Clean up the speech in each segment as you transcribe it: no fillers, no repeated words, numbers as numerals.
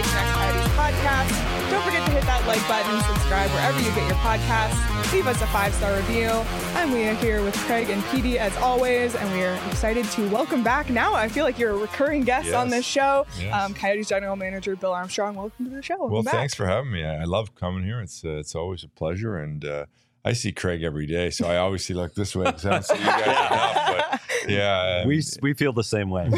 PHNX Coyotes podcast. Don't forget to hit that like button, subscribe wherever you get your podcasts. Leave us a 5-star review. And we are here with Craig and Petey as always, and we are excited to welcome back. Now I feel like you're a recurring guest on this show. Yes. Coyotes General Manager Bill Armstrong, welcome to the show. Well, thanks for having me. I love coming here. It's always a pleasure, and I see Craig every day, so I obviously look this way because I don't see you guys enough. But yeah, we feel the same way.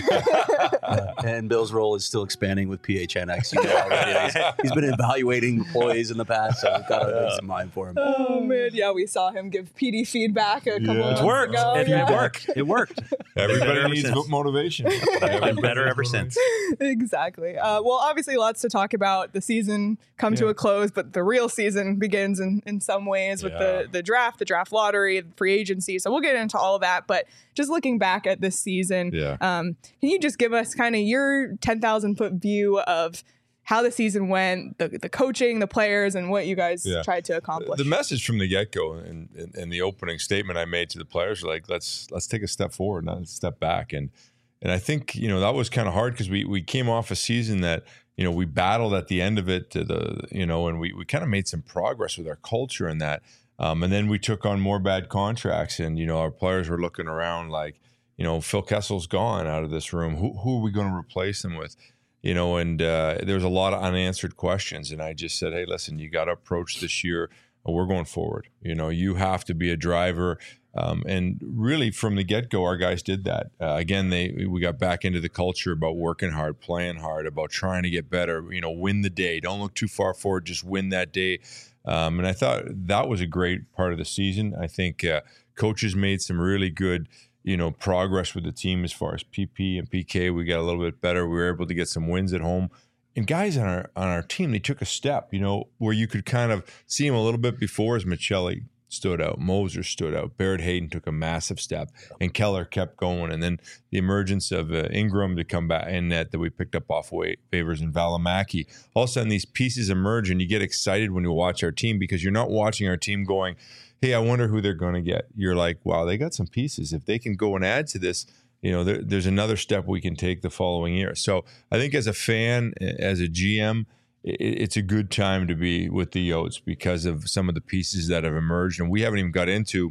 And Bill's role is still expanding with PHNX. You know already. He's been evaluating employees in the past, so we've got to make some mind for him. Oh man, yeah, we saw him give PD feedback a couple months ago. It worked. Everybody needs motivation. Been better ever since. Exactly. Well, obviously, lots to talk about. The season come to a close, but the real season begins in some ways with the draft lottery, the free agency. So we'll get into all of that. But just looking back at this season, can you just give us kind of your 10,000-foot view of how the season went, the coaching, the players, and what you guys tried to accomplish? The message from the get-go and the opening statement I made to the players, like, let's take a step forward, not a step back. And I think, that was kind of hard because we came off a season that, we battled at the end of it, and we kind of made some progress with our culture in that. And then we took on more bad contracts, and, our players were looking around like, Phil Kessel's gone out of this room. Who are we going to replace him with? And there was a lot of unanswered questions. And I just said, hey, listen, you got to approach this year. We're going forward. You have to be a driver. And really from the get-go, our guys did that. Again, we got back into the culture about working hard, playing hard, about trying to get better, win the day. Don't look too far forward, just win that day. And I thought that was a great part of the season. I think coaches made some really good progress with the team as far as PP and PK. We got a little bit better. We were able to get some wins at home. And guys on our team, they took a step, where you could kind of see him a little bit before as Michelli stood out, Moser stood out, Barrett Hayden took a massive step, and Keller kept going. And then the emergence of Ingram to come back in net that we picked up off waivers, and Valimaki. All of a sudden, these pieces emerge, and you get excited when you watch our team because you're not watching our team going, hey, I wonder who they're going to get. You're like, wow, they got some pieces. If they can go and add to this, there's another step we can take the following year. So I think as a fan, as a GM, it's a good time to be with the Yotes because of some of the pieces that have emerged. And we haven't even got into,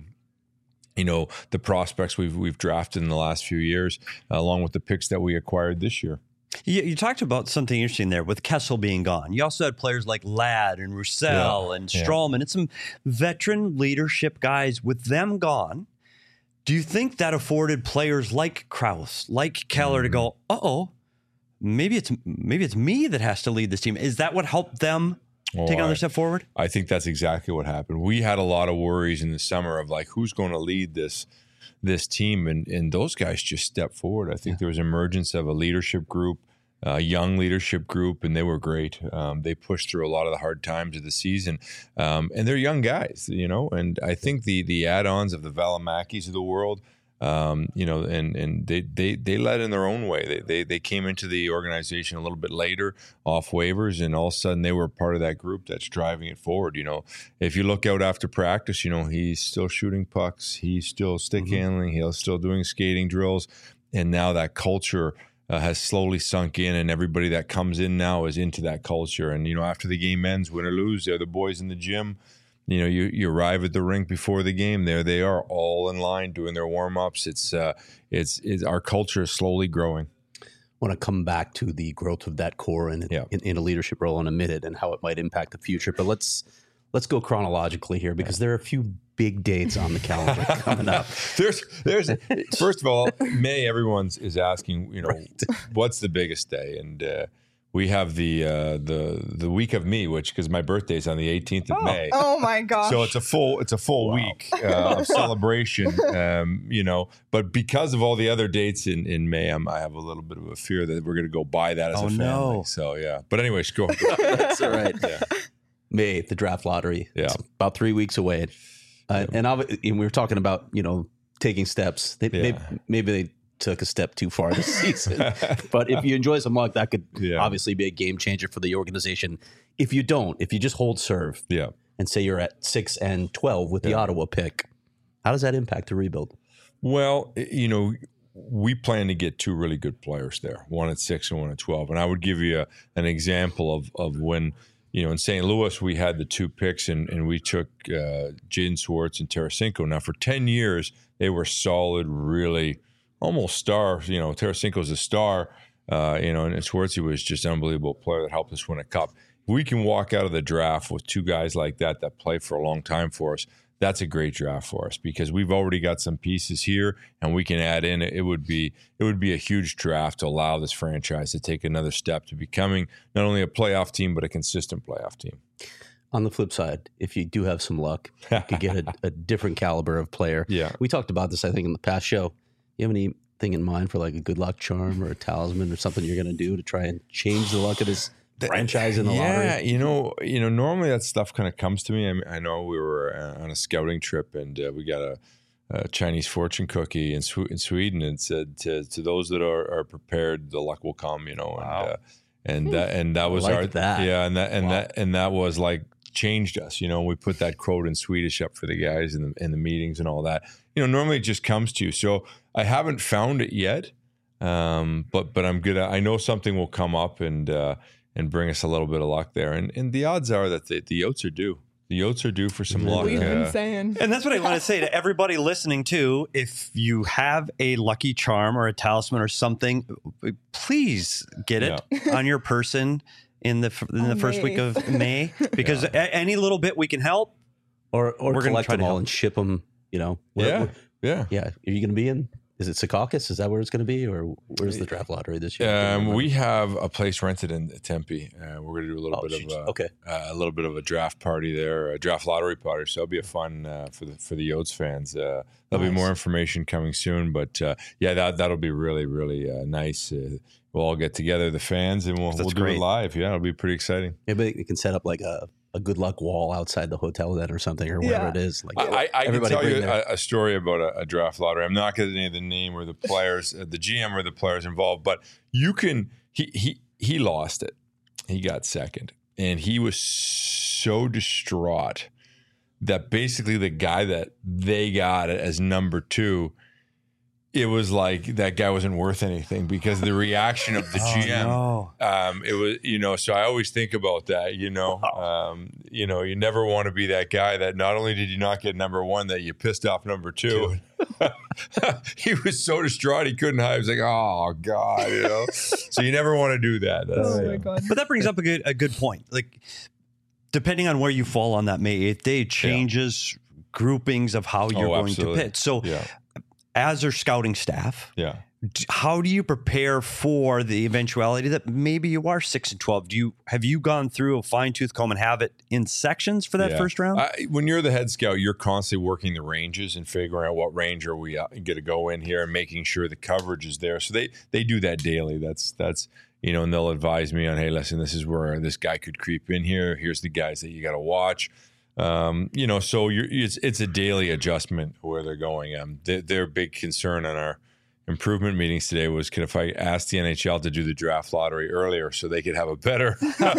the prospects we've drafted in the last few years, along with the picks that we acquired this year. You talked about something interesting there with Kessel being gone. You also had players like Ladd and Roussel and Strawman and some veteran leadership guys. With them gone, do you think that afforded players like Krause, like Keller to go, maybe it's me that has to lead this team? Is that what helped them take another step forward? I think that's exactly what happened. We had a lot of worries in the summer of like, who's going to lead this team, and those guys just stepped forward. I think there was emergence of a leadership group, a young leadership group, and they were great. They pushed through a lot of the hard times of the season, and they're young guys, and I think the add-ons of the Valimakis of the world, and they led in their own way. They came into the organization a little bit later off waivers, and all of a sudden they were part of that group that's driving it forward. If you look out after practice, he's still shooting pucks, he's still stick handling, he's still doing skating drills, and now that culture has slowly sunk in, and everybody that comes in now is into that culture. And after the game ends, win or lose, they're the boys in the gym. You arrive at the rink before the game. There they are, all in line doing their warm-ups. It's our culture is slowly growing. I want to come back to the growth of that core and in a leadership role in a minute and how it might impact the future. But let's go chronologically here because there are a few big dates on the calendar coming up. There's first of all, May. Everyone is asking, what's the biggest day, and we have the week of me, which because my birthday is on the 18th of May. Oh my gosh! So it's a full week of celebration, But because of all the other dates in May, I have a little bit of a fear that we're going to go buy that as a family. No. So yeah. But anyways, go. That's all right. Yeah. May, the draft lottery. Yeah. It's about 3 weeks away, and we were talking about taking steps. Maybe they took a step too far this season. But if you enjoy some luck, that could obviously be a game changer for the organization. If you just hold serve and say you're at 6-12 with the Ottawa pick, how does that impact the rebuild? Well, we plan to get 2 really good players there, one at 6 and one at 12. And I would give you an example of when, in St. Louis, we had the 2 picks and we took Jaden Schwartz and Tarasenko. Now, for 10 years, they were solid, really almost stars. Tarasenko's a star, and Schwartz was just an unbelievable player that helped us win a cup. If we can walk out of the draft with 2 guys like that play for a long time for us, that's a great draft for us because we've already got some pieces here and we can add in. It would be a huge draft to allow this franchise to take another step to becoming not only a playoff team, but a consistent playoff team. On the flip side, if you do have some luck, you could get a different caliber of player. Yeah. We talked about this, I think, in the past show. You have anything in mind for like a good luck charm or a talisman or something you're going to do to try and change the luck of this franchise in the lottery? Yeah, normally that stuff kind of comes to me. I know we were on a scouting trip and we got a Chinese fortune cookie in Sweden and said to those that are prepared, the luck will come. Wow. And that was that was like changed us. We put that quote in Swedish up for the guys in the meetings and all that. Normally it just comes to you. So I haven't found it yet, but I'm good. I know something will come up and bring us a little bit of luck there. And the odds are that the Yotes are due. The Yotes are due for some luck. We've been saying. And that's what I want to say to everybody listening too. If you have a lucky charm or a talisman or something, please get it on your person in the first week of May. Because any little bit we can help. Or we're collect them all and ship them, Yeah. Are you going to be in? Is it Secaucus? Is that where it's going to be, or where's the draft lottery this year? We have a place rented in Tempe. We're going to do a little bit of a draft party there, a draft lottery party. So it'll be a fun for the Yotes fans. There'll be more information coming soon, but that'll be really really nice. We'll all get together, the fans, and we'll do it live. Yeah, it'll be pretty exciting. Maybe we can set up like a good luck wall outside the hotel then or something or whatever it is. Like I can tell you a story about a draft lottery. I'm not going to name the name or the players, the GM or the players involved, but you can. He lost it. He got second, and he was so distraught that basically the guy that they got as number 2. It was like that guy wasn't worth anything because of the reaction of the GM. No. It was, so I always think about that, you never want to be that guy that not only did you not get number 1, that you pissed off number 2. He was so distraught he couldn't hide. He was like, oh God, So you never want to do that. My God. But that brings up a good point. Like, depending on where you fall on that May 8th day, changes groupings of how you're going to pitch. So as our scouting staff, how do you prepare for the eventuality that maybe you are 6 and 12? Have you gone through a fine tooth comb and have it in sections for that first round? When you're the head scout, you're constantly working the ranges and figuring out what range are we going to go in here and making sure the coverage is there. So they do that daily. That's and they'll advise me on, hey, listen, this is where this guy could creep in here. Here's the guys that you got to watch. So it's a daily adjustment where they're going. Their big concern on our improvement meetings today was, if I asked the NHL to do the draft lottery earlier so they could have a better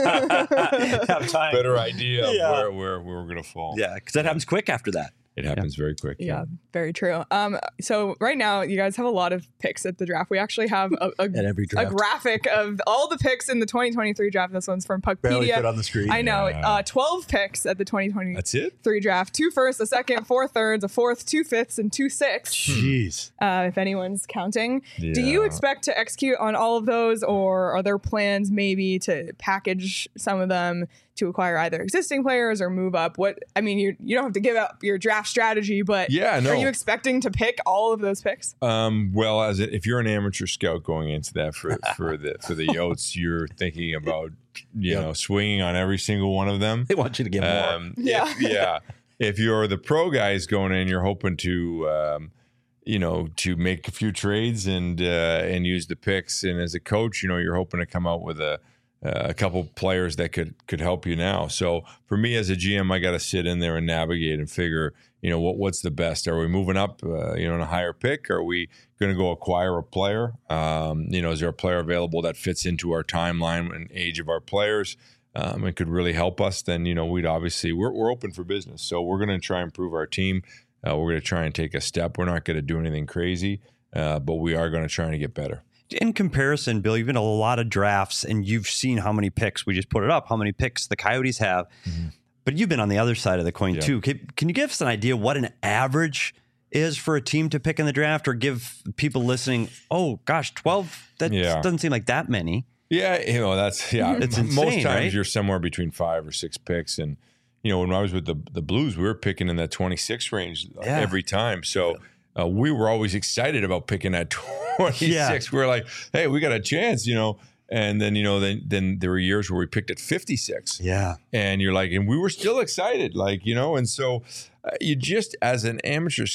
idea of where we're going to fall. Yeah, because that happens quick after that. It happens very quick. Yeah, very true. So right now, you guys have a lot of picks at the draft. We actually have a graphic of all the picks in the 2023 draft. This one's from Puckpedia. Barely fit on the screen. I know. 12 picks at the 2023 That's it? draft. 2 firsts, a second, 4 thirds, a fourth, 2 fifths, and 2 sixths. Jeez. If anyone's counting. Yeah. Do you expect to execute on all of those, or are there plans maybe to package some of them to acquire either existing players or move up? You don't have to give up your draft strategy, but are you expecting to pick all of those picks? Well, if you're an amateur scout going into that for the Yotes, you're thinking about swinging on every single one of them. They want you to get more. If you're the pro guys going in, you're hoping to to make a few trades and use the picks. And as a coach, you're hoping to come out with a couple players that could help you now. So for me as a GM, I got to sit in there and navigate and figure, what's the best? Are we moving up, in a higher pick? Are we going to go acquire a player? Is there a player available that fits into our timeline and age of our players? And could really help us? Then, we'd obviously, we're open for business. So we're going to try and improve our team. We're going to try and take a step. We're not going to do anything crazy. but we are going to try to get better. In comparison, Bill, you've been to a lot of drafts and you've seen how many picks, we just put it up, how many picks the Coyotes have. Mm-hmm. But you've been on the other side of the coin too. Can you give us an idea what an average is for a team to pick in the draft, or give people listening, oh gosh, 12, that doesn't seem like that many. Yeah, that's it's insane, most times right? You're somewhere between 5 or 6 picks. And, when I was with the Blues, we were picking in that 26 range every time. So we were always excited about picking at 26. Yeah. We were like, hey, we got a chance, And then, then there were years where we picked at 56. Yeah. And you're like, and we were still excited, and so you just, as an amateur,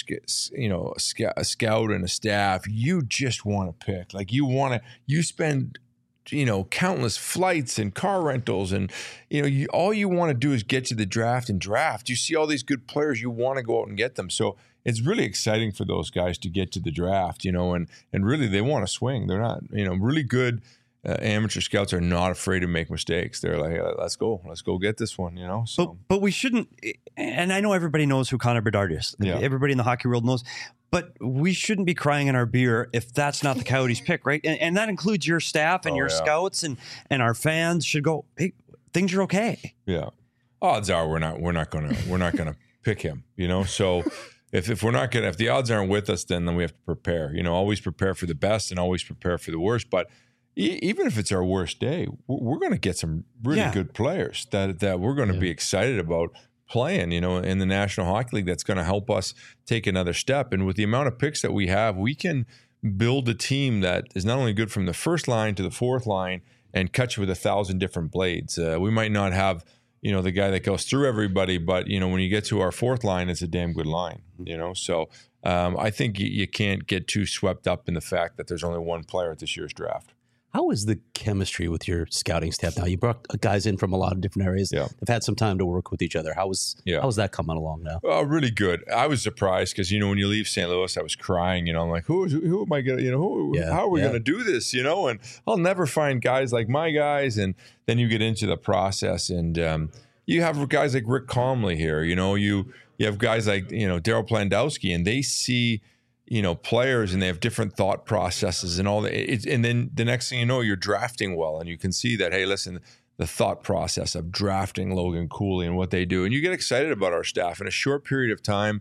a scout and a staff, you just want to pick. Like you spend, countless flights and car rentals, and, all you want to do is get to the draft and draft. You see all these good players, you want to go out and get them. So it's really exciting for those guys to get to the draft, and really they want to swing. They're not, really good. Amateur scouts are not afraid to make mistakes. They're like, let's go get this one, So, but we shouldn't. And I know everybody knows who Connor Bedard is. Yeah. Everybody in the hockey world knows. But we shouldn't be crying in our beer if that's not the Coyotes pick, right? And that includes your staff and your scouts and our fans should go, hey, things are okay. Yeah, odds are we're not gonna pick him, So. If the odds aren't with us, then we have to prepare. Always prepare for the best and always prepare for the worst. But even if it's our worst day, we're going to get some really good players that we're going to be excited about playing, in the National Hockey League. That's going to help us take another step. And with the amount of picks that we have, we can build a team that is not only good from the first line to the fourth line and cut you with 1,000 different blades. We might not have, the guy that goes through everybody, but, when you get to our fourth line, it's a damn good line, So I think you can't get too swept up in the fact that there's only one player at this year's draft. How is the chemistry with your scouting staff now? You brought guys in from a lot of different areas. Yeah. They've had some time to work with each other. How's that coming along now? Really good. I was surprised because, when you leave St. Louis, I was crying, I'm like, who am I going to, how are we going to do this, And I'll never find guys like my guys. And then you get into the process and you have guys like Rick Comley here, you have guys like, Daryl Plandowski, and they see, players, and they have different thought processes and all that. And then the next thing you know, you're drafting well, and you can see that, hey, listen, the thought process of drafting Logan Cooley and what they do, and you get excited about our staff. In a short period of time,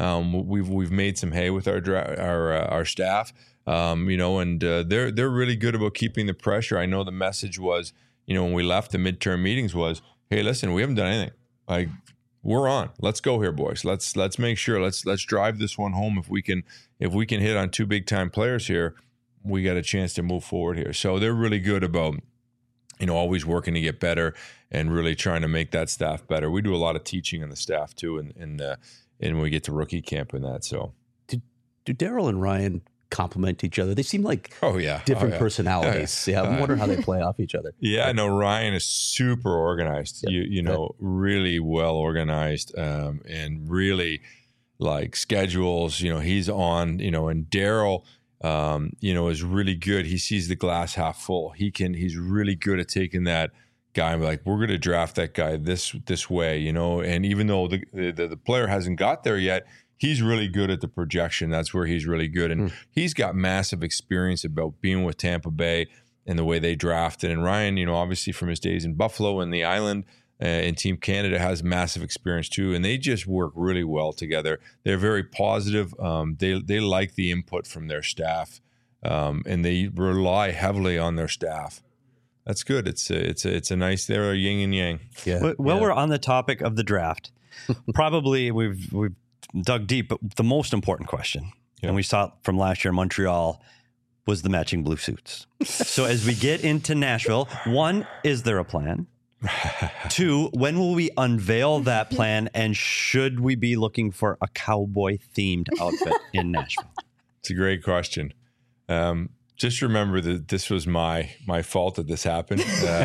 we've made some hay with our staff, and they're really good about keeping the pressure. I know the message was, when we left the midterm meetings was, hey, listen, we haven't done anything. Like, we're on. Let's go here, boys. Let's make sure. Let's drive this one home. If we can hit on 2 big time players here, we got a chance to move forward here. So they're really good about, always working to get better and really trying to make that staff better. We do a lot of teaching on the staff too, and when we get to rookie camp and that. So do Daryl and Ryan complement each other? They seem like different personalities. Yeah, I wonder how they play off each other. Yeah, no, Ryan is super organized. Really well organized, and really like schedules. He's on. And Daryl, is really good. He sees the glass half full. He's really good at taking that guy and be like, we're going to draft that guy this way. And even though the player hasn't got there yet, he's really good at the projection. That's where he's really good. And he's got massive experience about being with Tampa Bay and the way they drafted. And Ryan, obviously from his days in Buffalo and the Island and Team Canada, has massive experience too. And they just work really well together. They're very positive. They like the input from their staff, and they rely heavily on their staff. That's good. It's a nice, they're a yin and yang. Yeah. Well, we're on the topic of the draft. Probably we've dug deep, but the most important question, and we saw it from last year in Montreal, was the matching blue suits. So as we get into Nashville, 1, is there a plan? 2, when will we unveil that plan, and should we be looking for a cowboy-themed outfit in Nashville? It's a great question. Just remember that this was my fault that this happened.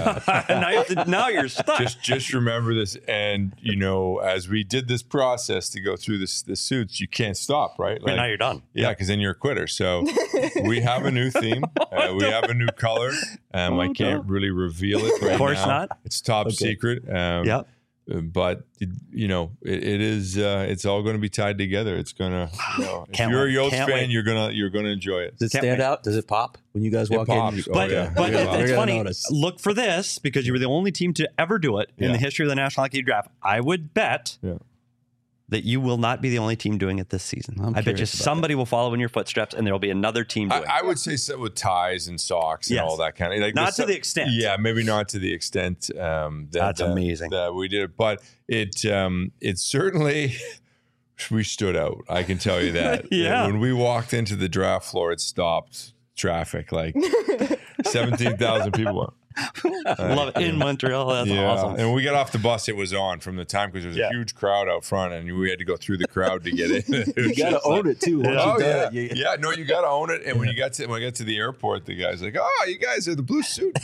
Now you're stuck. Just remember this, and as we did this process to go through the suits, you can't stop, right? Like, now you're done. Yeah, because then you're a quitter. So we have a new theme. We have a new color. I can't really reveal it right now. Of course not. It's top secret. but it is. It's all going to be tied together. It's gonna. If you're a Yotes fan, you're gonna enjoy it. Does it stand out? Does it pop when you guys walk in? But it's funny. Look for this because you were the only team to ever do it in the history of the National Hockey Draft. I would bet that you will not be the only team doing it this season. I bet you somebody will follow in your footsteps, and there will be another team doing it. I would say so with ties and socks and all that kind of like not to the extent. Yeah, maybe not to the extent that's amazing that we did it, but it certainly we stood out. I can tell you that. When we walked into the draft floor, it stopped traffic. Like 17,000 people went. Love it in Montreal. That's awesome. And when we got off the bus, it was on from the time because there was a huge crowd out front, and we had to go through the crowd to get in. You got to own it too. No, you got to own it. And when I got to the airport, the guy's like, "Oh, you guys are the blue suit."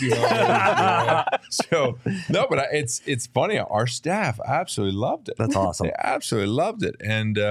So no, but it's funny. Our staff absolutely loved it. That's awesome. They absolutely loved it,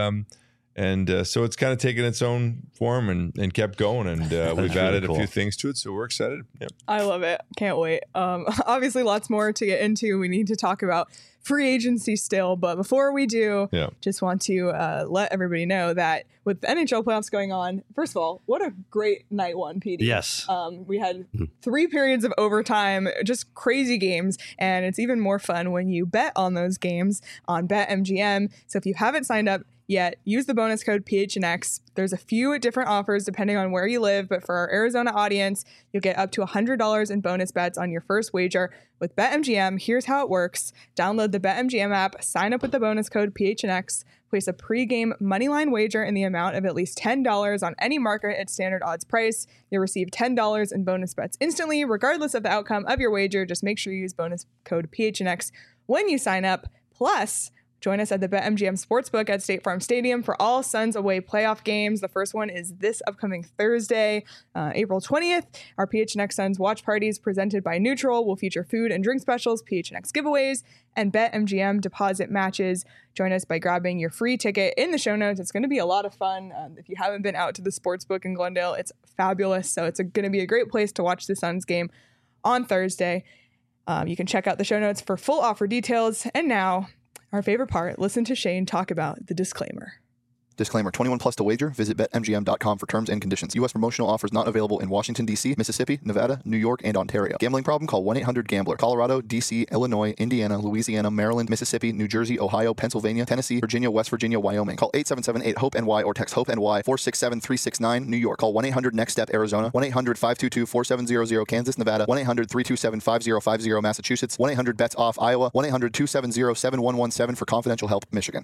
and so it's kind of taken its own form and kept going, and we've added a few things to it, so we're excited. Yep. I love it. Can't wait. Obviously, lots more to get into. We need to talk about free agency still, but before we do, just want to let everybody know that with the NHL playoffs going on, first of all, what a great night one, PD. Yes. We had 3 periods of overtime, just crazy games, and it's even more fun when you bet on those games on BetMGM. So if you haven't signed up yet, use the bonus code PHNX. There's a few different offers depending on where you live, but for our Arizona audience, you'll get up to $100 in bonus bets on your first wager. With BetMGM, here's how it works. Download the BetMGM app, sign up with the bonus code PHNX, place a pregame moneyline wager in the amount of at least $10 on any market at standard odds price. You'll receive $10 in bonus bets instantly, regardless of the outcome of your wager. Just make sure you use bonus code PHNX when you sign up. Plus, join us at the BetMGM Sportsbook at State Farm Stadium for all Suns away playoff games. The first one is this upcoming Thursday, April 20th. Our PHNX Suns watch parties presented by Neutral will feature food and drink specials, PHNX giveaways, and BetMGM deposit matches. Join us by grabbing your free ticket in the show notes. It's going to be a lot of fun. If you haven't been out to the Sportsbook in Glendale, it's fabulous. So it's going to be a great place to watch the Suns game on Thursday. You can check out the show notes for full offer details. And now, our favorite part, listen to Shane talk about the disclaimer. Disclaimer, 21 plus to wager. Visit BetMGM.com for terms and conditions. U.S. promotional offers not available in Washington, D.C., Mississippi, Nevada, New York, and Ontario. Gambling problem? Call 1-800-GAMBLER. Colorado, D.C., Illinois, Indiana, Louisiana, Maryland, Mississippi, New Jersey, Ohio, Pennsylvania, Tennessee, Virginia, West Virginia, Wyoming. Call 877-8-HOPE-NY or text HOPE-NY 467-369, New York. Call 1-800-NEXT-STEP, Arizona. 1-800-522-4700, Kansas, Nevada. 1-800-327-5050, Massachusetts. 1-800-BETS-OFF, Iowa. 1-800-270-7117 for confidential help, Michigan.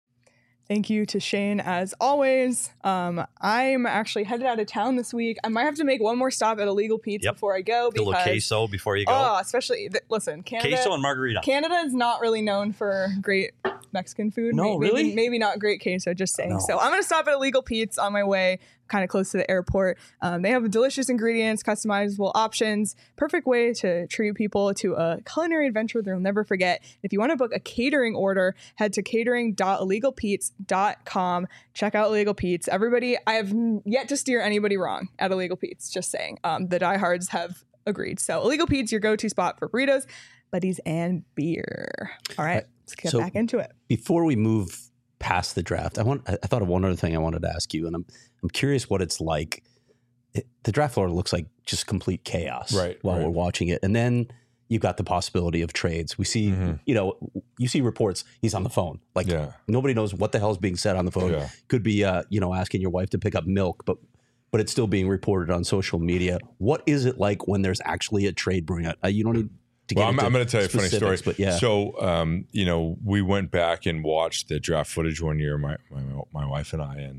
Thank you to Shane, as always. I'm actually headed out of town this week. I might have to make one more stop at Illegal Pete's before I go. A little queso before you go. Oh, especially, listen, Canada. Queso and margarita. Canada is not really known for great Mexican food. No, really? Maybe not great queso, just saying. No. So I'm going to stop at Illegal Pete's on my way, kind of close to the airport. They have delicious ingredients, customizable options, perfect way to treat people to a culinary adventure they'll never forget. If you want to book a catering order, head to catering.illegalpete's.com. Check out Illegal Pete's. Everybody, I have yet to steer anybody wrong at Illegal Pete's, just saying. The diehards have agreed. So Illegal Pete's, your go-to spot for burritos, buddies, and beer. All right, let's get back into it. Before we move past the draft, I thought of one other thing I wanted to ask you, and I'm curious what it's like. The draft floor looks like just complete chaos while we're watching it, and then you've got the possibility of trades. We see, you see reports. He's on the phone, nobody knows what the hell is being said on the phone. Yeah. Could be, asking your wife to pick up milk, but it's still being reported on social media. What is it like when there's actually a trade brewing? You don't need. I'm going to tell you a funny story. But yeah. So, we went back and watched the draft footage one year, my wife and I,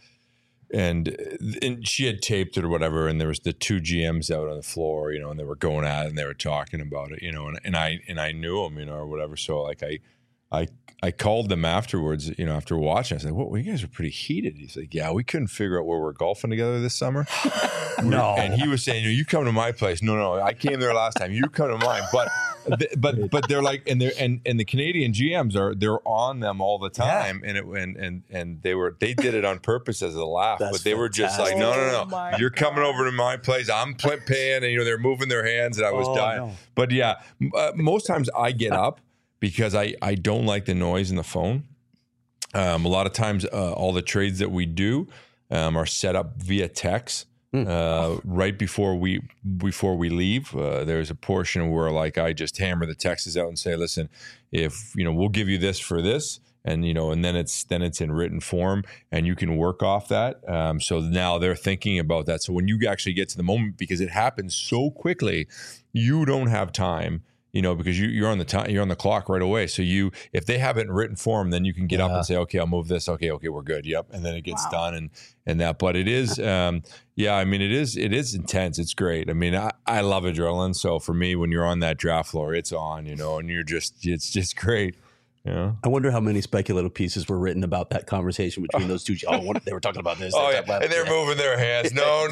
and she had taped it or whatever, and there was the 2 GMs out on the floor, and they were going at it and they were talking about it, and I knew them, or whatever. So like I called them afterwards, after watching. I said, "Well, you guys are pretty heated." He's like, "Yeah, we couldn't figure out where we're golfing together this summer." No. And he was saying, "You come to my place." No, I came there last time. You come to mine. But they're like, and the Canadian GMs they're on them all the time, and they did it on purpose as a laugh. That's but they were just like, no, you're coming over to my place. I'm paying, and they're moving their hands, and I was dying. No. But yeah, most times I get up. because I don't like the noise in the phone. A lot of times, all the trades that we do are set up via text. Right before we leave, there's a portion where like I just hammer the texts out and say, listen, if we'll give you this for this, and and then it's in written form, and you can work off that. So now they're thinking about that. So when you actually get to the moment, because it happens so quickly, you don't have time. Because you're on the time, you're on the clock right away. So if they have it in written form, then you can get up and say, okay, I'll move this. Okay, we're good. Yep. And then it gets done and that. But it is, it is intense. It's great. I mean, I love adrenaline. So for me, when you're on that draft floor, it's on, and it's just great. Yeah. I wonder how many speculative pieces were written about that conversation between those two. They were talking about this. And they're moving their hands. No.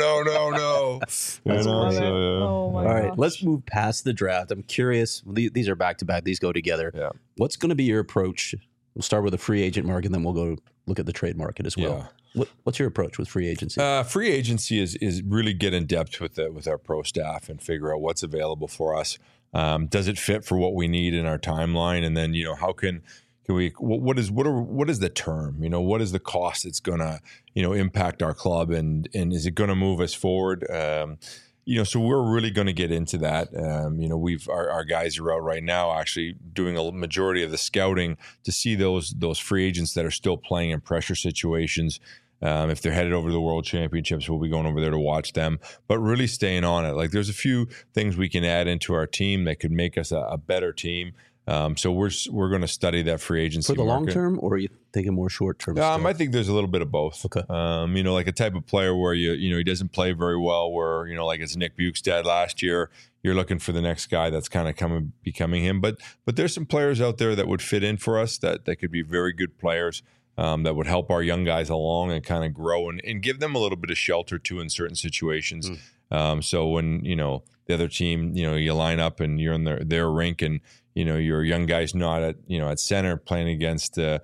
Oh my All right, gosh. let's move past the draft. I'm curious. These are back to back. These go together. Yeah. What's going to be your approach? We'll start with the free agent market, and then we'll go look at the trade market as well. Yeah. What's your approach with free agency? Free agency is really get in depth with our pro staff and figure out what's available for us. Does it fit for what we need in our timeline? And then, how can we, what is the term, what is the cost it's going to, impact our club, and is it going to move us forward? So we're really going to get into that. Our guys are out right now actually doing a majority of the scouting to see those free agents that are still playing in pressure situations. If they're headed over to the World Championships, we'll be going over there to watch them, but really staying on it. Like there's a few things we can add into our team that could make us a better team. So we're going to study that free agency for the market. long term, or are you thinking more short term? I think there's a little bit of both. Okay. Like a type of player where he doesn't play very well, where like it's Nick Bukestad last year. You're looking for the next guy that's kind of becoming him. But there's some players out there that would fit in for us that could be very good players. That would help our young guys along and kind of grow and give them a little bit of shelter too in certain situations. So when the other team, you line up and you're in their rink, and your young guy's not at center playing against Connor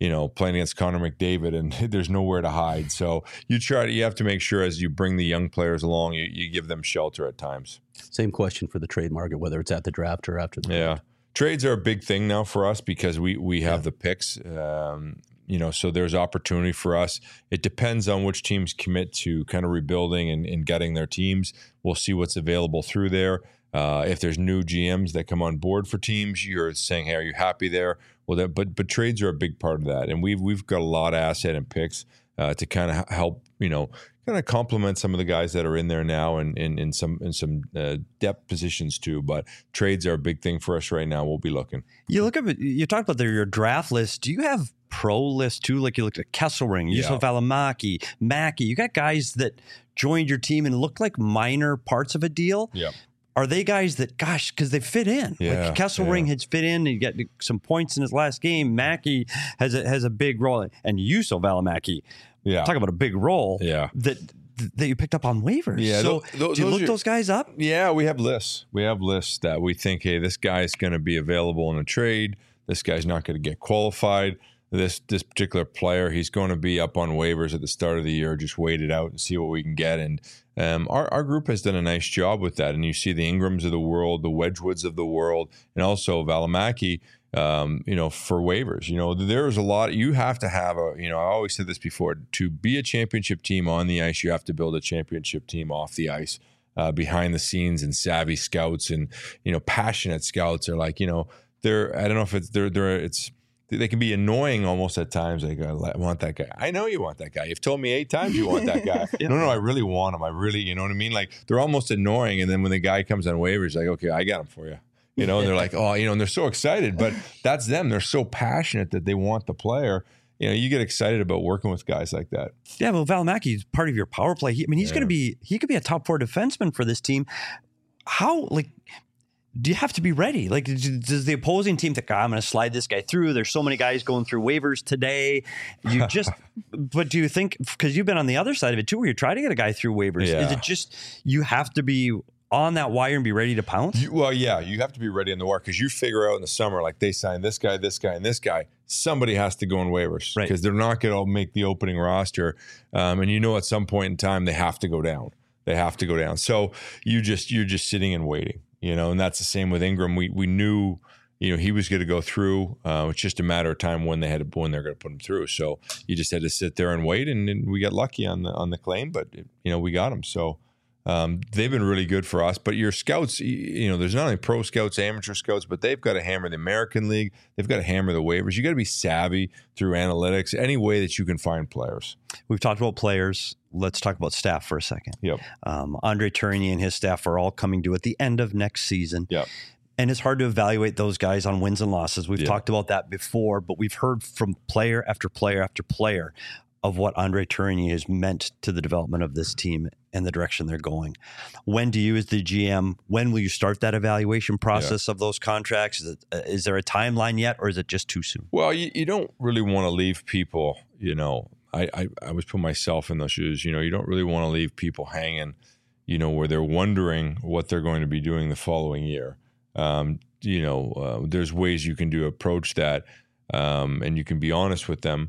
McDavid, and there's nowhere to hide. So you have to make sure as you bring the young players along, you give them shelter at times. Same question for the trade market, whether it's at the draft or after the draft. Trades are a big thing now for us because we have the picks. So there's opportunity for us. It depends on which teams commit to kind of rebuilding and getting their teams. We'll see what's available through there. If there's new GMs that come on board for teams, you're saying, hey, are you happy there? Well, but trades are a big part of that. And we've got a lot of asset and picks to kind of help, kind of complement some of the guys that are in there now and in some depth positions too. But trades are a big thing for us right now. We'll be looking. You talked about your draft list. Do you have pro list too? Like you looked at Kesselring, Yusuf Valimaki, Mackey. You got guys that joined your team and looked like minor parts of a deal. Yeah. Are they guys that, because they fit in? Yeah, like Kesselring has fit in, and he got some points in his last game. Mackey has a big role, and Yusuf Valimaki. Yeah. Talk about a big role. Yeah. That you picked up on waivers. Yeah. So do you look those guys up? Yeah, we have lists. We have lists that we think, hey, this guy's going to be available in a trade. This guy's not going to get qualified. This particular player, he's going to be up on waivers at the start of the year. Just wait it out and see what we can get. And our group has done a nice job with that. And you see the Ingrams of the world, the Wedgwoods of the world, and also Valimaki, for waivers. There's a lot. You have to have I always said this before, to be a championship team on the ice, you have to build a championship team off the ice, behind the scenes, and savvy scouts and, passionate scouts are like, they're, I don't know if it's, they can be annoying almost at times. Like, I want that guy. I know you want that guy. You've told me 8 times you want that guy. No, I really want him. I really, you know what I mean? Like, they're almost annoying. And then when the guy comes on waivers, like, okay, I got him for you. And they're like, oh, and they're so excited. But that's them. They're so passionate that they want the player. You get excited about working with guys like that. Yeah, well, Valimaki is part of your power play. He could be a top 4 defenseman for this team. How, do you have to be ready? Like, does the opposing team think, I'm going to slide this guy through? There's so many guys going through waivers today. But do you think, because you've been on the other side of it too, where you try to get a guy through waivers, is it just you have to be on that wire and be ready to pounce? You have to be ready on the wire, because you figure out in the summer, like they signed this guy, and this guy. Somebody has to go on waivers because they're not going to make the opening roster. And at some point in time, they have to go down. So you're just sitting and waiting. And that's the same with Ingram. We knew, he was going to go through. It's just a matter of time when they're going to put him through. So you just had to sit there and wait, and we got lucky on the claim, but we got him. So they've been really good for us. But your scouts, there's not only pro scouts, amateur scouts, but they've got to hammer the American League. They've got to hammer the waivers. You got to be savvy through analytics, any way that you can find players. We've talked about players. Let's talk about staff for a second. Yep. Andre Tourigny and his staff are all coming due at the end of next season. Yep. And it's hard to evaluate those guys on wins and losses. We've talked about that before, but we've heard from player after player after player of what Andre Tourigny has meant to the development of this team and the direction they're going. When do you, as the GM, when will you start that evaluation process of those contracts? Is there a timeline yet, or is it just too soon? Well, you don't really want to leave people, I was putting myself in those shoes. You don't really want to leave people hanging, where they're wondering what they're going to be doing the following year. There's ways you can approach that, and you can be honest with them,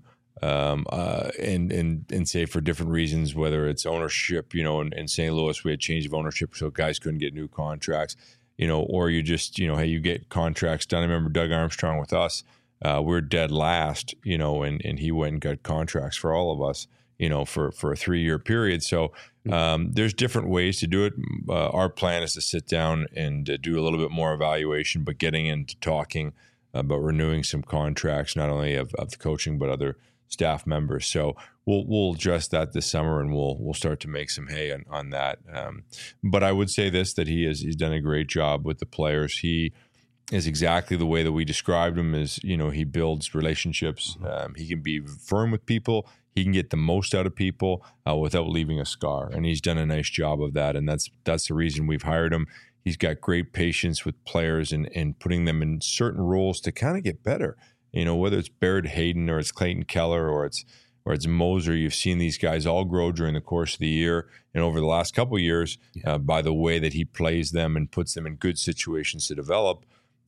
and say for different reasons, whether it's ownership, in St. Louis, we had change of ownership, so guys couldn't get new contracts, or you just, hey, you get contracts done. I remember Doug Armstrong with us. We're dead last, and he went and got contracts for all of us, for a 3-year period. So there's different ways to do it. Our plan is to sit down and do a little bit more evaluation, but getting into talking about renewing some contracts, not only of the coaching, but other staff members. So we'll address that this summer, and we'll start to make some hay on that. But I would say this, that he's done a great job with the players. He is exactly the way that we described him. Is he builds relationships. He can be firm with people. He can get the most out of people without leaving a scar, and he's done a nice job of that. And that's the reason we've hired him. He's got great patience with players and putting them in certain roles to kind of get better. Whether it's Barrett Hayden or it's Clayton Keller or it's Moser, you've seen these guys all grow during the course of the year and over the last couple of years by the way that he plays them and puts them in good situations to develop.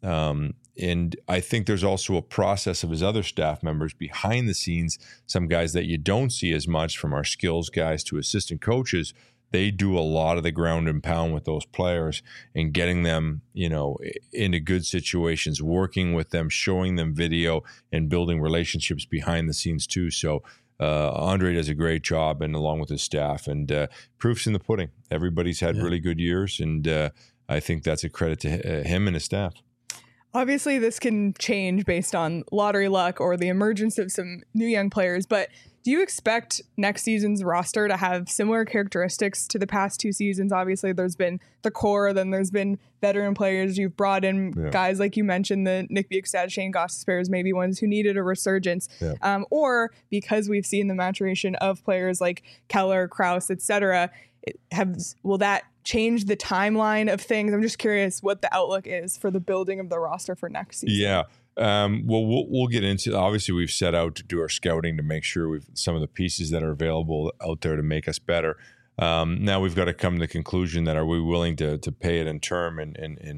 And I think there's also a process of his other staff members behind the scenes, some guys that you don't see as much, from our skills guys to assistant coaches. They do a lot of the ground and pound with those players and getting them, into good situations, working with them, showing them video, and building relationships behind the scenes too. So Andre does a great job, and along with his staff, and proof's in the pudding. Everybody's had really good years, and I think that's a credit to him and his staff. Obviously, this can change based on lottery luck or the emergence of some new young players, but do you expect next season's roster to have similar characteristics to the past 2 seasons? Obviously, there's been the core, then there's been veteran players. You've brought in guys like you mentioned, the Nick Bjugstad, Shane Gostisbehere, maybe ones who needed a resurgence. Or because we've seen the maturation of players like Keller, Krause, etc., will that change the timeline of things? I'm just curious what the outlook is for the building of the roster for next season. Yeah. Well, we'll get into, obviously we've set out to do our scouting to make sure we've some of the pieces that are available out there to make us better. Now we've got to come to the conclusion that, are we willing to pay it in term and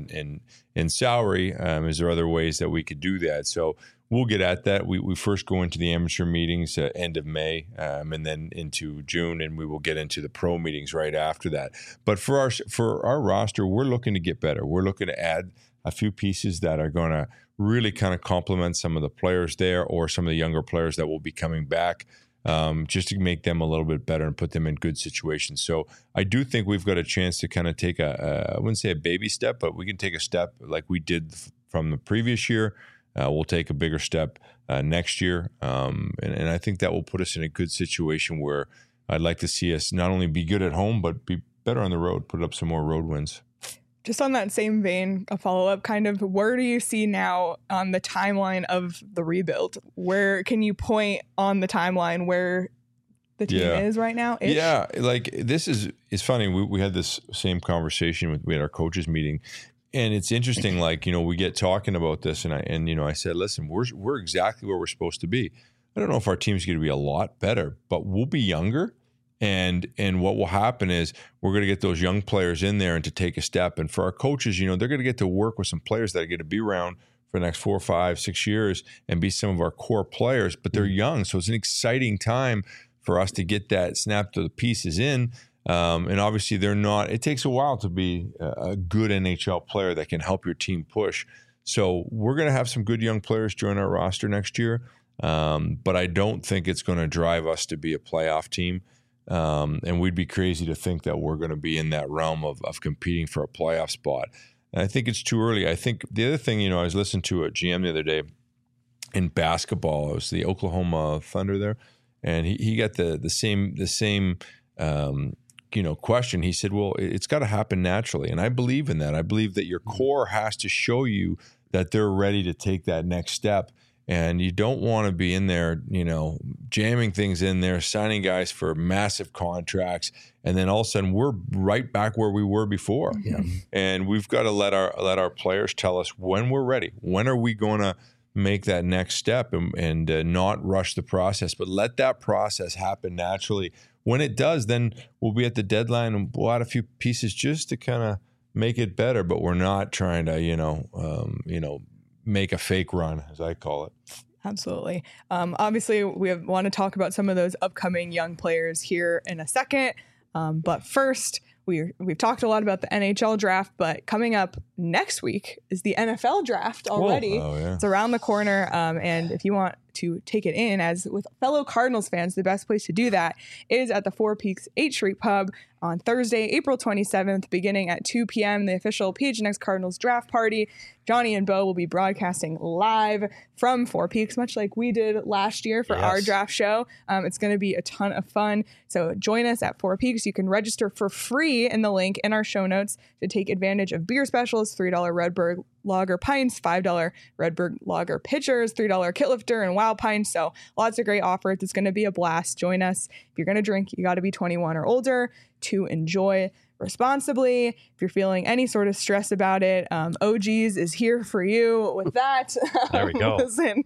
in salary? Is there other ways that we could do that? So we'll get at that. We first go into the amateur meetings at end of May, and then into June, and we will get into the pro meetings right after that. But for our roster, we're looking to get better. We're looking to add a few pieces that are going to really kind of complement some of the players there, or some of the younger players that will be coming back, just to make them a little bit better and put them in good situations. So I do think we've got a chance to kind of take I wouldn't say a baby step, but we can take a step like we did from the previous year. We'll take a bigger step next year. And I think that will put us in a good situation where I'd like to see us not only be good at home, but be better on the road, put up some more road wins. Just on that same vein, a follow-up kind of, where do you see now on the timeline of the rebuild? Where can you point on the timeline where the team is right now? Yeah, like this it's funny. We had this same conversation we had our coaches meeting, and it's interesting. Like, we get talking about this, and I said, listen, we're exactly where we're supposed to be. I don't know if our team's going to be a lot better, but we'll be younger. And what will happen is we're going to get those young players in there and to take a step. And for our coaches, they're going to get to work with some players that are going to be around for the next 4, 5, 6 years and be some of our core players, but they're young. So it's an exciting time for us to get that snap to the pieces in. And obviously it takes a while to be a good NHL player that can help your team push. So we're going to have some good young players join our roster next year. But I don't think it's going to drive us to be a playoff team. And we'd be crazy to think that we're going to be in that realm of competing for a playoff spot. And I think it's too early. I think the other thing, I was listening to a GM the other day in basketball. It was the Oklahoma Thunder there. And he got the same question. He said, well, it's got to happen naturally. And I believe in that. I believe that your core has to show you that they're ready to take that next step. And you don't want to be in there, jamming things in there, signing guys for massive contracts. And then all of a sudden we're right back where we were before. Yeah. And we've got to let our players tell us when we're ready. When are we going to make that next step and not rush the process, but let that process happen naturally. When it does, then we'll be at the deadline and we'll add a few pieces just to kind of make it better. But we're not trying to, make a fake run, as I call it. Absolutely. Obviously, we want to talk about some of those upcoming young players here in a second. But first, we've talked a lot about the NHL draft, but coming up next week is the NFL draft already. Oh, yeah. It's around the corner. And if you want to take it in as with fellow Cardinals fans, the best place to do that is at the Four Peaks 8th Street Pub on Thursday, April 27th, beginning at 2 p.m. The official PHNX Cardinals draft party. Johnny and Bo will be broadcasting live from Four Peaks, much like we did last year for our draft show. It's going to be a ton of fun. So join us at Four Peaks. You can register for free in the link in our show notes to take advantage of beer specials, $3 Redbird Lager pints, $5 Redbird Lager pitchers, $3 Kitlifter and Wild Pints. So lots of great offers. It's going to be a blast. Join us. If you're going to drink, you got to be 21 or older to enjoy responsibly. If you're feeling any sort of stress about it, OG's is here for you with that. There we go. Listen,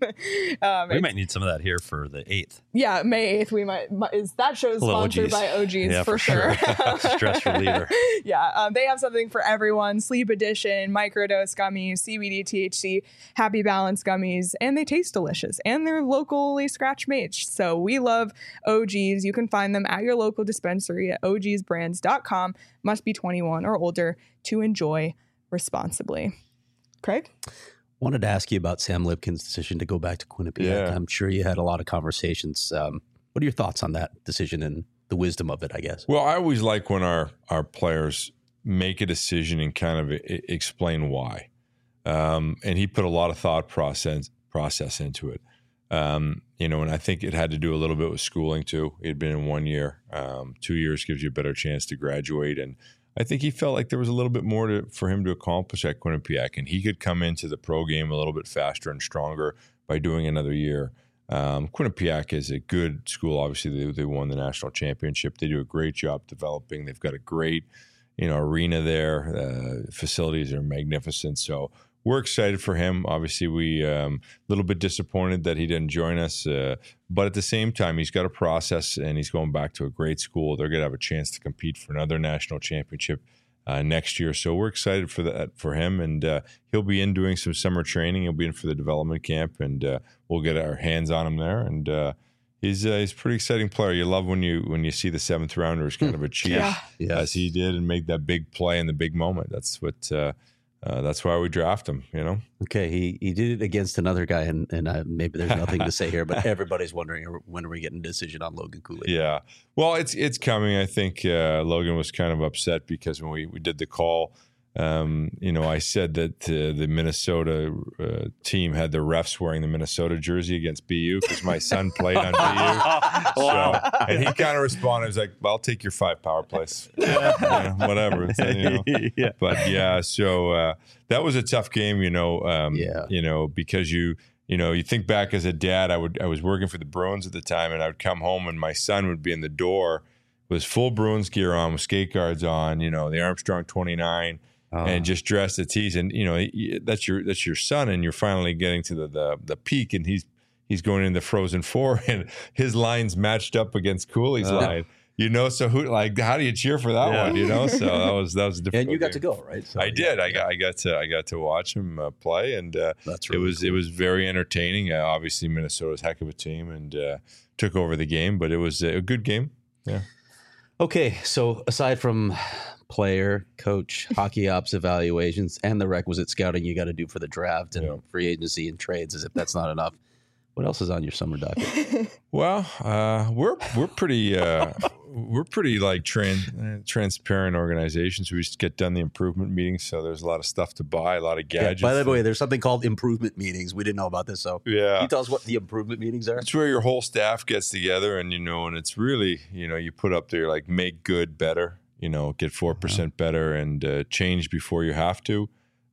we might need some of that here for the 8th. Yeah, May 8th. We might is that show is sponsored by OG's for sure. Stress reliever. Yeah, they have something for everyone. Sleep Edition, microdose gummies, CBD, THC, Happy Balance gummies, and they taste delicious. And they're locally scratch made. So we love OG's. You can find them at your local dispensary at ogsbrands.com. Must be 21 or older to enjoy responsibly. Craig? Wanted to ask you about Sam Lipkin's decision to go back to Quinnipiac. Yeah. I'm sure you had a lot of conversations. What are your thoughts on that decision and the wisdom of it, I guess? Well, I always like when our players make a decision and kind of explain why. And he put a lot of thought process into it. And I think it had to do a little bit with schooling too. He had been in 1 year. 2 years gives you a better chance to graduate. And I think he felt like there was a little bit more for him to accomplish at Quinnipiac, and he could come into the pro game a little bit faster and stronger by doing another year. Quinnipiac is a good school. Obviously, they won the national championship. They do a great job developing. They've got a great, arena there. Facilities are magnificent. So we're excited for him. Obviously, we a little bit disappointed that he didn't join us. But at the same time, he's got a process, and he's going back to a great school. They're going to have a chance to compete for another national championship next year. So we're excited for that for him. And he'll be in doing some summer training. He'll be in for the development camp, and we'll get our hands on him there. And he's a pretty exciting player. You love when you see the 7th rounders kind of achieve as he did and make that big play in the big moment. That's what. That's why we draft him, Okay, he did it against another guy, and maybe there's nothing to say here, but everybody's wondering when are we getting a decision on Logan Cooley? Yeah, well, it's coming. I think Logan was kind of upset because when we did the call, I said that the Minnesota team had the refs wearing the Minnesota jersey against BU because my son played on BU. So, and he kind of responded, he was like, well, I'll take your 5 power plays. Whatever. Yeah. But yeah, so that was a tough game, because you think back as a dad, I was working for the Bruins at the time, and I would come home and my son would be in the door with full Bruins gear on, with skate guards on, the Armstrong 29. And just dressed to tease, and that's your son, and you're finally getting to the peak, and he's going in the Frozen Four, and his lines matched up against Cooley's line. So how do you cheer for that one? So that was a difficult. And you got game. To go, right? So, I did. I got to watch him play, and that's really it was very entertaining. Obviously, Minnesota's a heck of a team, and took over the game, but it was a good game. Yeah. Okay, so aside from player, coach, hockey ops evaluations, and the requisite scouting you got to do for the draft and free agency and trades, as if that's not enough, what else is on your summer docket? Well, we're pretty like transparent organizations. We just get done the improvement meetings, so there's a lot of stuff to buy, a lot of gadgets. By the way, there's something called improvement meetings. We didn't know about this, so can you tell us what the improvement meetings are? It's where your whole staff gets together, and and it's really you put up there like make good better, get 4% better, and change before you have to.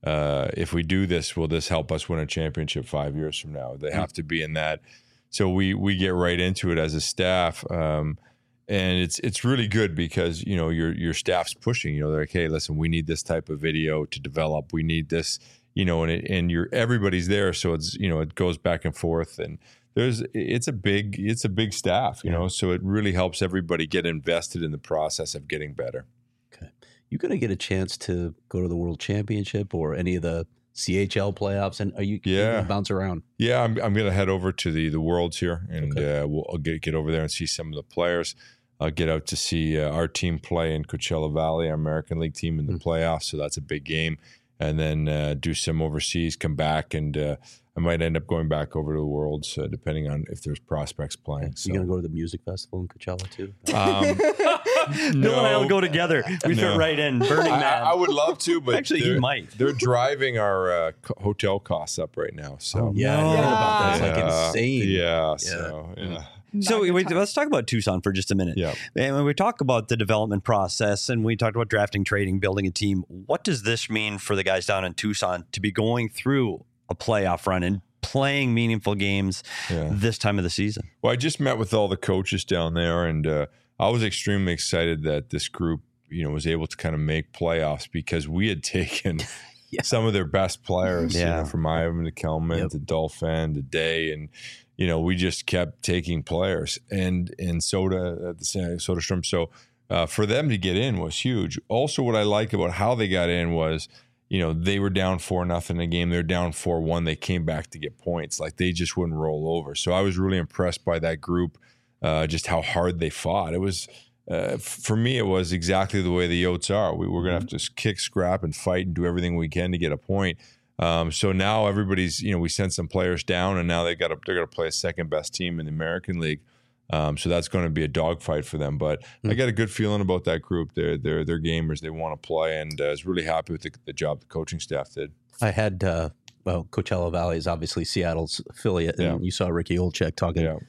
If we do this, will this help us win a championship 5 years from now? They have to be in that. So we get right into it as a staff. And it's really good because, your staff's pushing, they're like, hey, listen, we need this type of video to develop. We need this, and everybody's there. So it's, it goes back and forth, and it's a big staff, so it really helps everybody get invested in the process of getting better. You going to get a chance to go to the World Championship or any of the CHL playoffs? And are you going to bounce around? Yeah, I'm going to head over to the Worlds here, and I'll get over there and see some of the players. I'll get out to see our team play in Coachella Valley, our American League team in the playoffs. So that's a big game. And then do some overseas, come back, and I might end up going back over to the Worlds, depending on if there's prospects playing. So. You going to go to the music festival in Coachella too? Bill and I will go together. We fit right in. Burning Man. I would love to, but actually, you might. They're driving our hotel costs up right now. So I heard about that. It's like insane. Yeah. So yeah. So let's talk about Tucson for just a minute. Yeah. And when we talk about the development process and we talked about drafting, trading, building a team, what does this mean for the guys down in Tucson to be going through a playoff run and playing meaningful games this time of the season? Well, I just met with all the coaches down there, and I was extremely excited that this group, was able to kind of make playoffs because we had taken some of their best players, from Ivan to Kelman to Dolphin to Day, and we just kept taking players and Soda at the Soderstrom. So for them to get in was huge. Also, what I like about how they got in was, they were down 4-0 in a game. They're down 4-1. They came back to get points. Like they just wouldn't roll over. So I was really impressed by that group, just how hard they fought. It was, for me, it was exactly the way the Yotes are. We were going to have to kick, scrap, and fight and do everything we can to get a point. So now everybody's, we sent some players down, and now they're going to play a second best team in the American League. So that's going to be a dogfight for them. But I got a good feeling about that group. They're gamers. They want to play, and I was really happy with the job the coaching staff did. I had, Coachella Valley is obviously Seattle's affiliate, and you saw Ricky Olczyk talking. Yeah.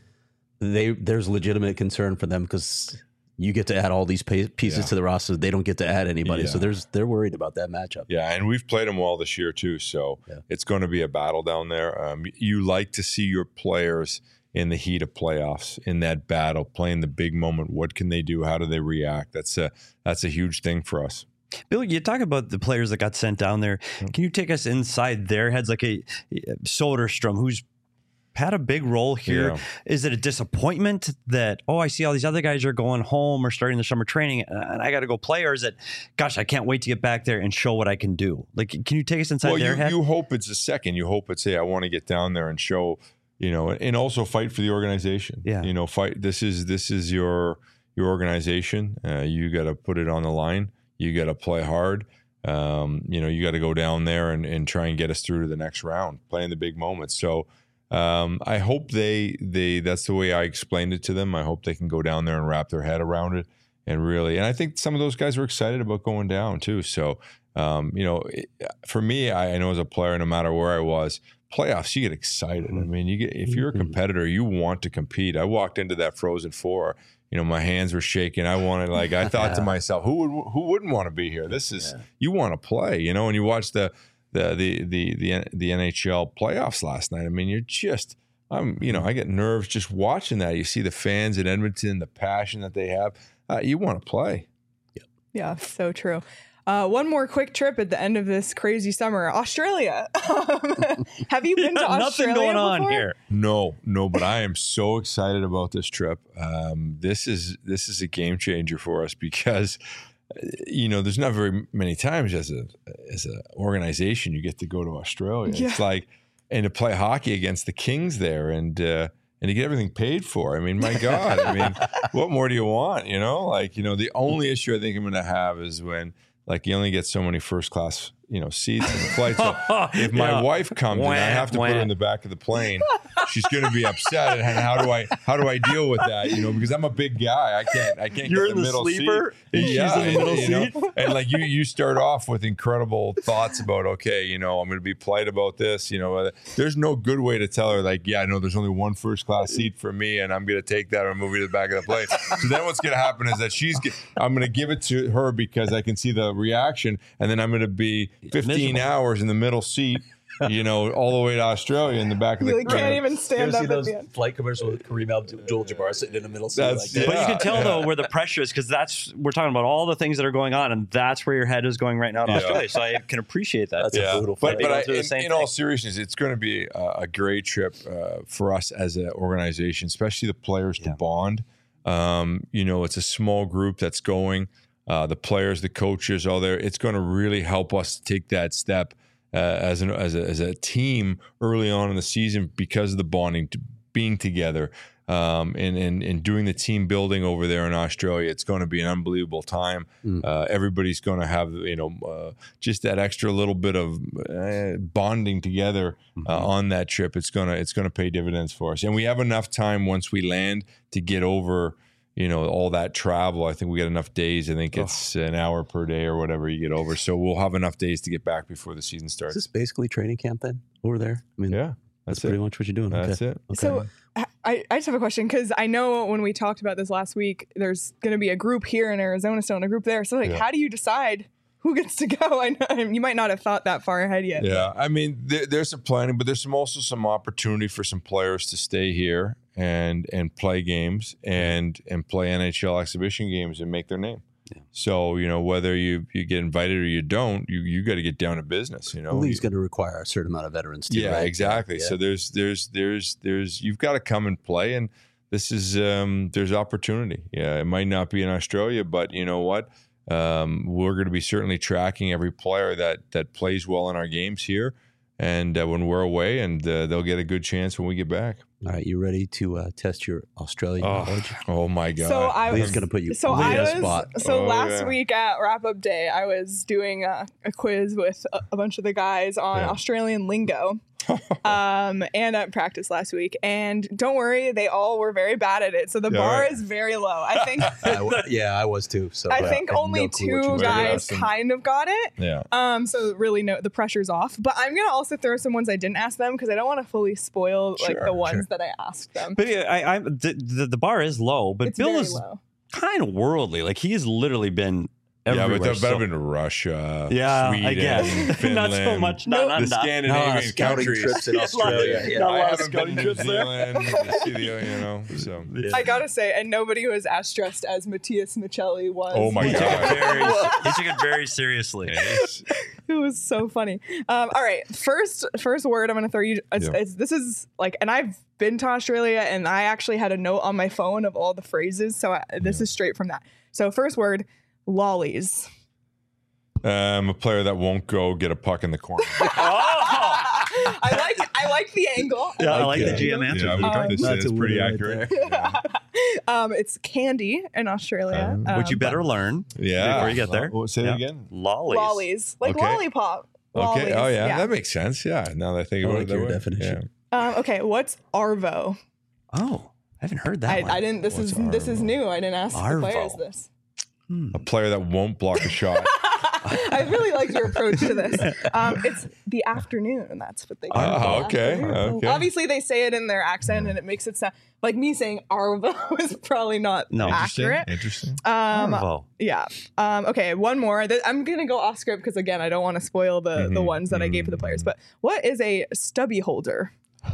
There's legitimate concern for them because you get to add all these pieces to the roster. They don't get to add anybody. So they're worried about that matchup. Yeah, and we've played them well this year too. So it's going to be a battle down there. You like to see your players in the heat of playoffs, in that battle, playing the big moment. What can they do? How do they react? That's a huge thing for us. Bill, you talk about the players that got sent down there. Can you take us inside their heads, like a Soderstrom, who's had a big role here? Is it a disappointment that, I see all these other guys are going home or starting the summer training and I got to go play? Or is it, gosh, I can't wait to get back there and show what I can do? Like, can you take us inside their head? You hope it's a second. You hope it's, I want to get down there and show, and also fight for the organization. Yeah. Fight. This is your organization. You got to put it on the line. You got to play hard. You got to go down there and try and get us through to the next round, playing the big moments. So, I hope that's the way I explained it to them. I hope they can go down there and wrap their head around it and I think some of those guys were excited about going down too. So, for me, I know as a player, no matter where I was, playoffs, you get excited. I mean, if you're a competitor, you want to compete. I walked into that Frozen Four, my hands were shaking. I wanted, I thought to myself, who wouldn't want to be here? This is, you want to play, and you watch the NHL playoffs last night. I mean, I get nerves just watching that. You see the fans in Edmonton, the passion that they have. You want to play. Yeah, so true. One more quick trip at the end of this crazy summer, Australia. Have you been to Australia nothing going on before? here. No, but I am so excited about this trip. This is a game changer for us because there's not very many times as a organization you get to go to Australia. Yeah. It's and to play hockey against the Kings there, and and you get everything paid for. I mean, my God, I mean, what more do you want? You know, like, you know, the only issue I think I'm going to have is when, like, you only get so many first class, you know, seats in the flight. So if my wife comes and I have to put her in the back of the plane, she's going to be upset. And how do I deal with that? You know, because I'm a big guy. I can't You're get the middle sleeper, seat. she's in the middle seat. Know? And like you start off with incredible thoughts about, okay, you know, I'm going to be polite about this. You know, there's no good way to tell her, like, yeah, I know there's only one first class seat for me, and I'm going to take that and move you to the back of the plane. So then what's going to happen is that I'm going to give it to her because I can see the reaction, and then I'm going to be 15 hours in the middle seat, you know, all the way to Australia in the back of the You can't even stand up at the end. Flight commercials with Kareem Abdul-Jabbar sitting in the middle seat. That's- Like that. But you can tell though where the pressure is, because we're talking about all the things that are going on, and that's where your head is going right now in Australia. So I can appreciate that. That's a brutal flight. But in all seriousness, it's going to be a great trip for us as an organization, especially the players to bond. You know, it's a small group that's going. The players, the coaches, all there. It's going to really help us take that step as a team early on in the season because of the bonding, being together, and doing the team building over there in Australia. It's going to be an unbelievable time. Everybody's going to have, you know, just that extra little bit of bonding together on that trip. It's gonna pay dividends for us, and we have enough time once we land to get over, you know, all that travel. I think we got enough days. I think it's an hour per day or whatever you get over. So we'll have enough days to get back before the season starts. Is this basically training camp then over there? I mean, Yeah, that's pretty much what you're doing. That's it. Okay. So I just have a question, because I know when we talked about this last week, there's going to be a group here in Arizona still and a group there. So like, how do you decide who gets to go? I know you might not have thought that far ahead yet. Yeah, I mean, there's some planning, but there's also some opportunity for some players to stay here and play games and play NHL exhibition games and make their name. Yeah. So, you know, whether you get invited or you don't, you got to get down to business. You know, the league's going to require a certain amount of veterans too. Yeah, right? exactly. Yeah. So there's you've got to come and play, and this is there's opportunity. Yeah, it might not be in Australia, but you know what? We're going to be certainly tracking every player that plays well in our games here, and when we're away, and they'll get a good chance when we get back. All right, you ready to test your Australian knowledge? Oh my God! So Leah's going to put you on the spot. So last week at wrap up day, I was doing a quiz with a bunch of the guys on Australian lingo. And at practice last week, and don't worry, they all were very bad at it. So the bar is very low. I think. I was too. So I think only two guys kind of got it. Yeah. So really, the pressure's off. But I'm gonna also throw some ones I didn't ask them because I don't want to fully spoil the ones that I asked them. But the bar is low, but It's Bill very is low. kind of worldly. Like he's literally been everywhere. Yeah, but that better been Russia, I Sweden, guess. Finland, Not so much. the Scandinavian countries. trips in Australia. I haven't been to New Zealand. You know, so. I gotta say, and nobody was as stressed as Matthias Michelli was. Oh my God! He took it very seriously. It was so funny. All right, first word I'm gonna throw you. This is like, and I've been to Australia, and I actually had a note on my phone of all the phrases. So this is straight from that. So first word. Lollies. A player that won't go get a puck in the corner. I like the angle. Yeah, I like the GM answer. Yeah, this is pretty accurate. It's candy in Australia. Which you better learn before you get there. Say it again. Lollies. Like lollipop. Lollies. Okay. Oh, yeah. Yeah. That makes sense. Yeah. Now that I think about it. Your definition. Yeah. Okay. What's Arvo? Oh, I haven't heard that one. I didn't. This is new. I didn't ask the players this. A player that won't block a shot. I really like your approach to this. It's the afternoon. That's what they do. Oh, okay. Obviously, they say it in their accent, and it makes it sound like me saying Arvo is probably not accurate. Interesting. Arvo. Yeah. Okay, one more. I'm going to go off script because, again, I don't want to spoil the ones that I gave to the players. But what is a stubby holder?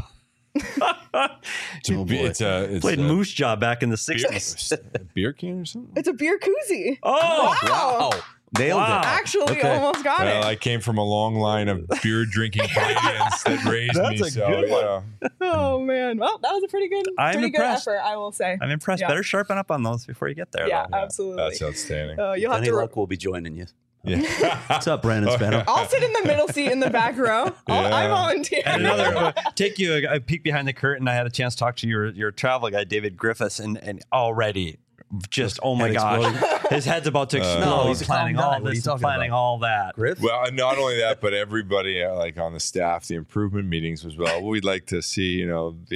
It's played Moose Jaw back in the 60s. A beer can or something? It's a beer koozie. Oh, wow. Nailed it. Actually, almost got it. I came from a long line of beer drinking Canadians that raised me. Good one. Oh man, well, that was a pretty good effort, I will say. I'm impressed. Yeah. Better sharpen up on those before you get there. Yeah, though. absolutely. That's outstanding. You'll have Danny to. Luck will be joining you. What's up, Brandon Spano? I'll sit in the middle seat in the back row. I volunteer. And another take you a peek behind the curtain. I had a chance to talk to your travel guy, David Griffiths, and already just oh my gosh, his head's about to explode. No, he's planning all this, planning all that. Griff? Well, not only that, but everybody like on the staff, the improvement meetings was we'd like to see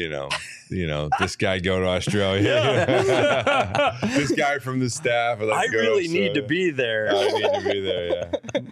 this guy go to Australia. This guy from the staff. I really need to be there. I need to be there.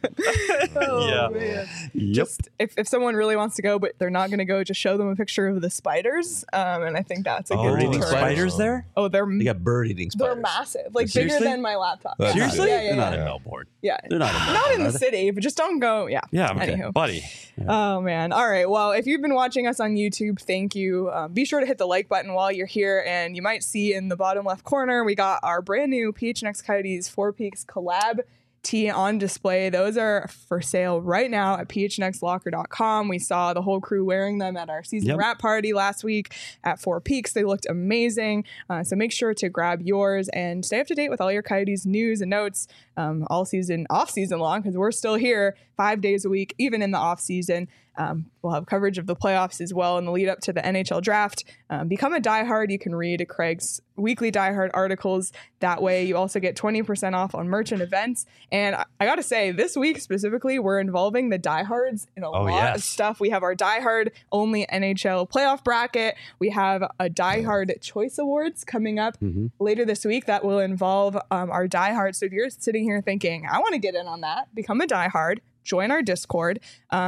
Oh, man. Just if someone really wants to go, but they're not going to go, just show them a picture of the spiders. And I think that's a good eating deterrent. spiders there? Oh, They got bird eating spiders. they're massive, like Seriously? bigger than my laptop. Seriously? Yeah, They're not yeah. in Melbourne. Yeah. They're not in Melbourne. Not in the are they? city, but just don't go. Yeah. Yeah, okay. Anywho. Buddy. Oh, man. All right. Well, if you've been watching us on YouTube, thank you. Be sure to hit the like button while you're here. And you might see in the bottom left corner, we got our brand new PHNX Coyotes Four Peaks collab tee on display. Those are for sale right now at phnxlocker.com. We saw the whole crew wearing them at our season wrap party last week at Four Peaks. They looked amazing. So make sure to grab yours and stay up to date with all your Coyotes news and notes all season, off season long, because we're still here 5 days a week, even in the off season. We'll have coverage of the playoffs as well in the lead up to the NHL draft. Become a diehard. You can read Craig's weekly diehard articles. That way you also get 20% off on merchant events. And I got to say, this week specifically, we're involving the diehards in a lot of stuff. We have our diehard only NHL playoff bracket. We have a diehard choice awards coming up later this week that will involve our diehards. So if you're sitting here thinking, I want to get in on that, become a diehard, join our Discord,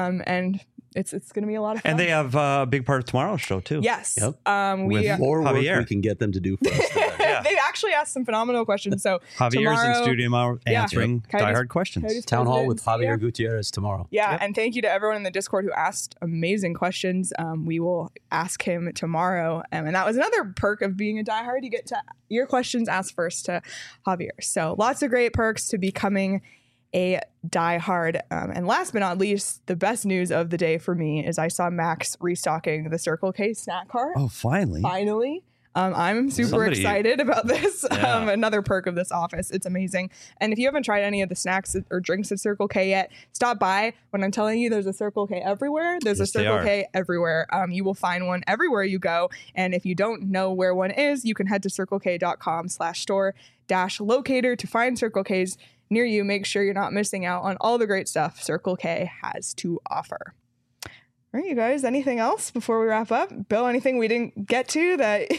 and it's going to be a lot of fun. And they have a big part of tomorrow's show too. Yes. Yep. With more work Javier. we can get them to do for us. They've actually asked some phenomenal questions. So Javier's in studio answering Coyotes- diehard questions. Coyotes Town hall with president, Javier Gutierrez tomorrow. Yeah, and thank you to everyone in the Discord who asked amazing questions. We will ask him tomorrow. And that was another perk of being a diehard. You get to your questions asked first to Javier. So lots of great perks to becoming a diehard. And last but not least, the best news of the day for me is I saw Max restocking the Circle K snack cart. Oh, finally. Finally. I'm super excited about this. Another perk of this office. It's amazing. And if you haven't tried any of the snacks or drinks at Circle K yet, stop by. When I'm telling you there's a Circle K everywhere, there's a Circle K everywhere. You will find one everywhere you go. And if you don't know where one is, you can head to circlek.com/store-locator to find Circle K's near you. Make sure you're not missing out on all the great stuff Circle K has to offer. All right, you guys, anything else before we wrap up? Bill, anything we didn't get to that?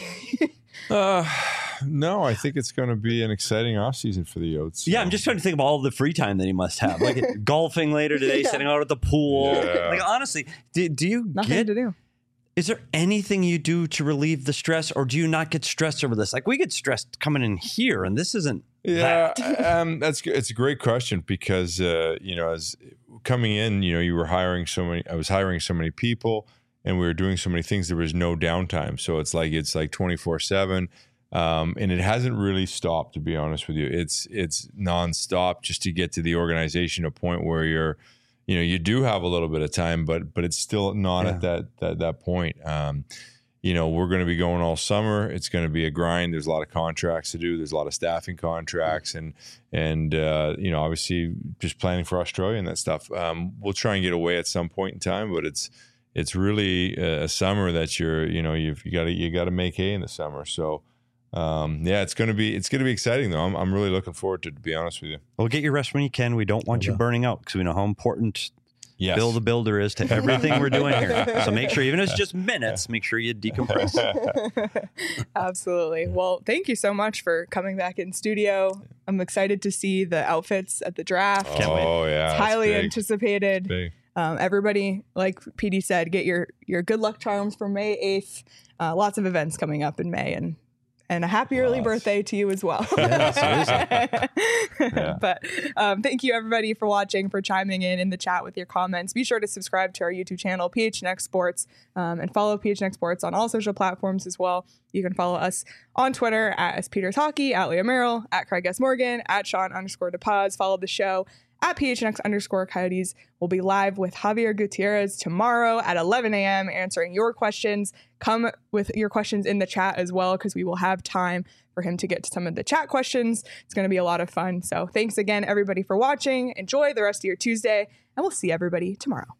No, I think it's going to be an exciting offseason for the Yotes. Yeah, I'm just trying to think of all the free time that he must have. Like golfing later today, sitting out at the pool. Yeah. Like honestly, do you Nothing to do. Is there anything you do to relieve the stress, or do you not get stressed over this? Like we get stressed coming in here, and this isn't. Yeah, that's good. It's a great question because as coming in, you were hiring so many. I was hiring so many people, and we were doing so many things. There was no downtime, so it's like 24/7, and it hasn't really stopped. To be honest with you, it's nonstop just to get to the organization, a point where you're. You do have a little bit of time, but it's still not at that point. We're going to be going all summer. It's going to be a grind. There's a lot of contracts to do. There's a lot of staffing contracts, and obviously just planning for Australia and that stuff. We'll try and get away at some point in time, but it's really a summer that you got to make hay in the summer. So. It's gonna be exciting though. I'm really looking forward to it, to be honest with you. Well, get your rest when you can. We don't want you burning out because we know how important Bill the Builder is to everything we're doing here. So make sure, even if it's just minutes, make sure you decompress. Absolutely. Well, thank you so much for coming back in studio. I'm excited to see the outfits at the draft. Can't wait. Oh yeah, it's highly anticipated. Big. Everybody, like PD said, get your good luck charms for May 8th. Lots of events coming up in May, and a happy early birthday to you as well. Yeah, But thank you, everybody, for watching, for chiming in the chat with your comments. Be sure to subscribe to our YouTube channel, PHNX Sports, and follow PHNX Sports on all social platforms as well. You can follow us on Twitter at SPeters Hockey, at Leah Merrill, at Craig S. Morgan, at Sean_DePaz. Follow the show at PHNX_Coyotes. We'll be live with Javier Gutierrez tomorrow at 11 a.m. answering your questions. Come with your questions in the chat as well, because we will have time for for him to get to some of the chat questions. It's going to be a lot of fun. So thanks again, everybody, for watching. Enjoy the rest of your Tuesday, and we'll see everybody tomorrow.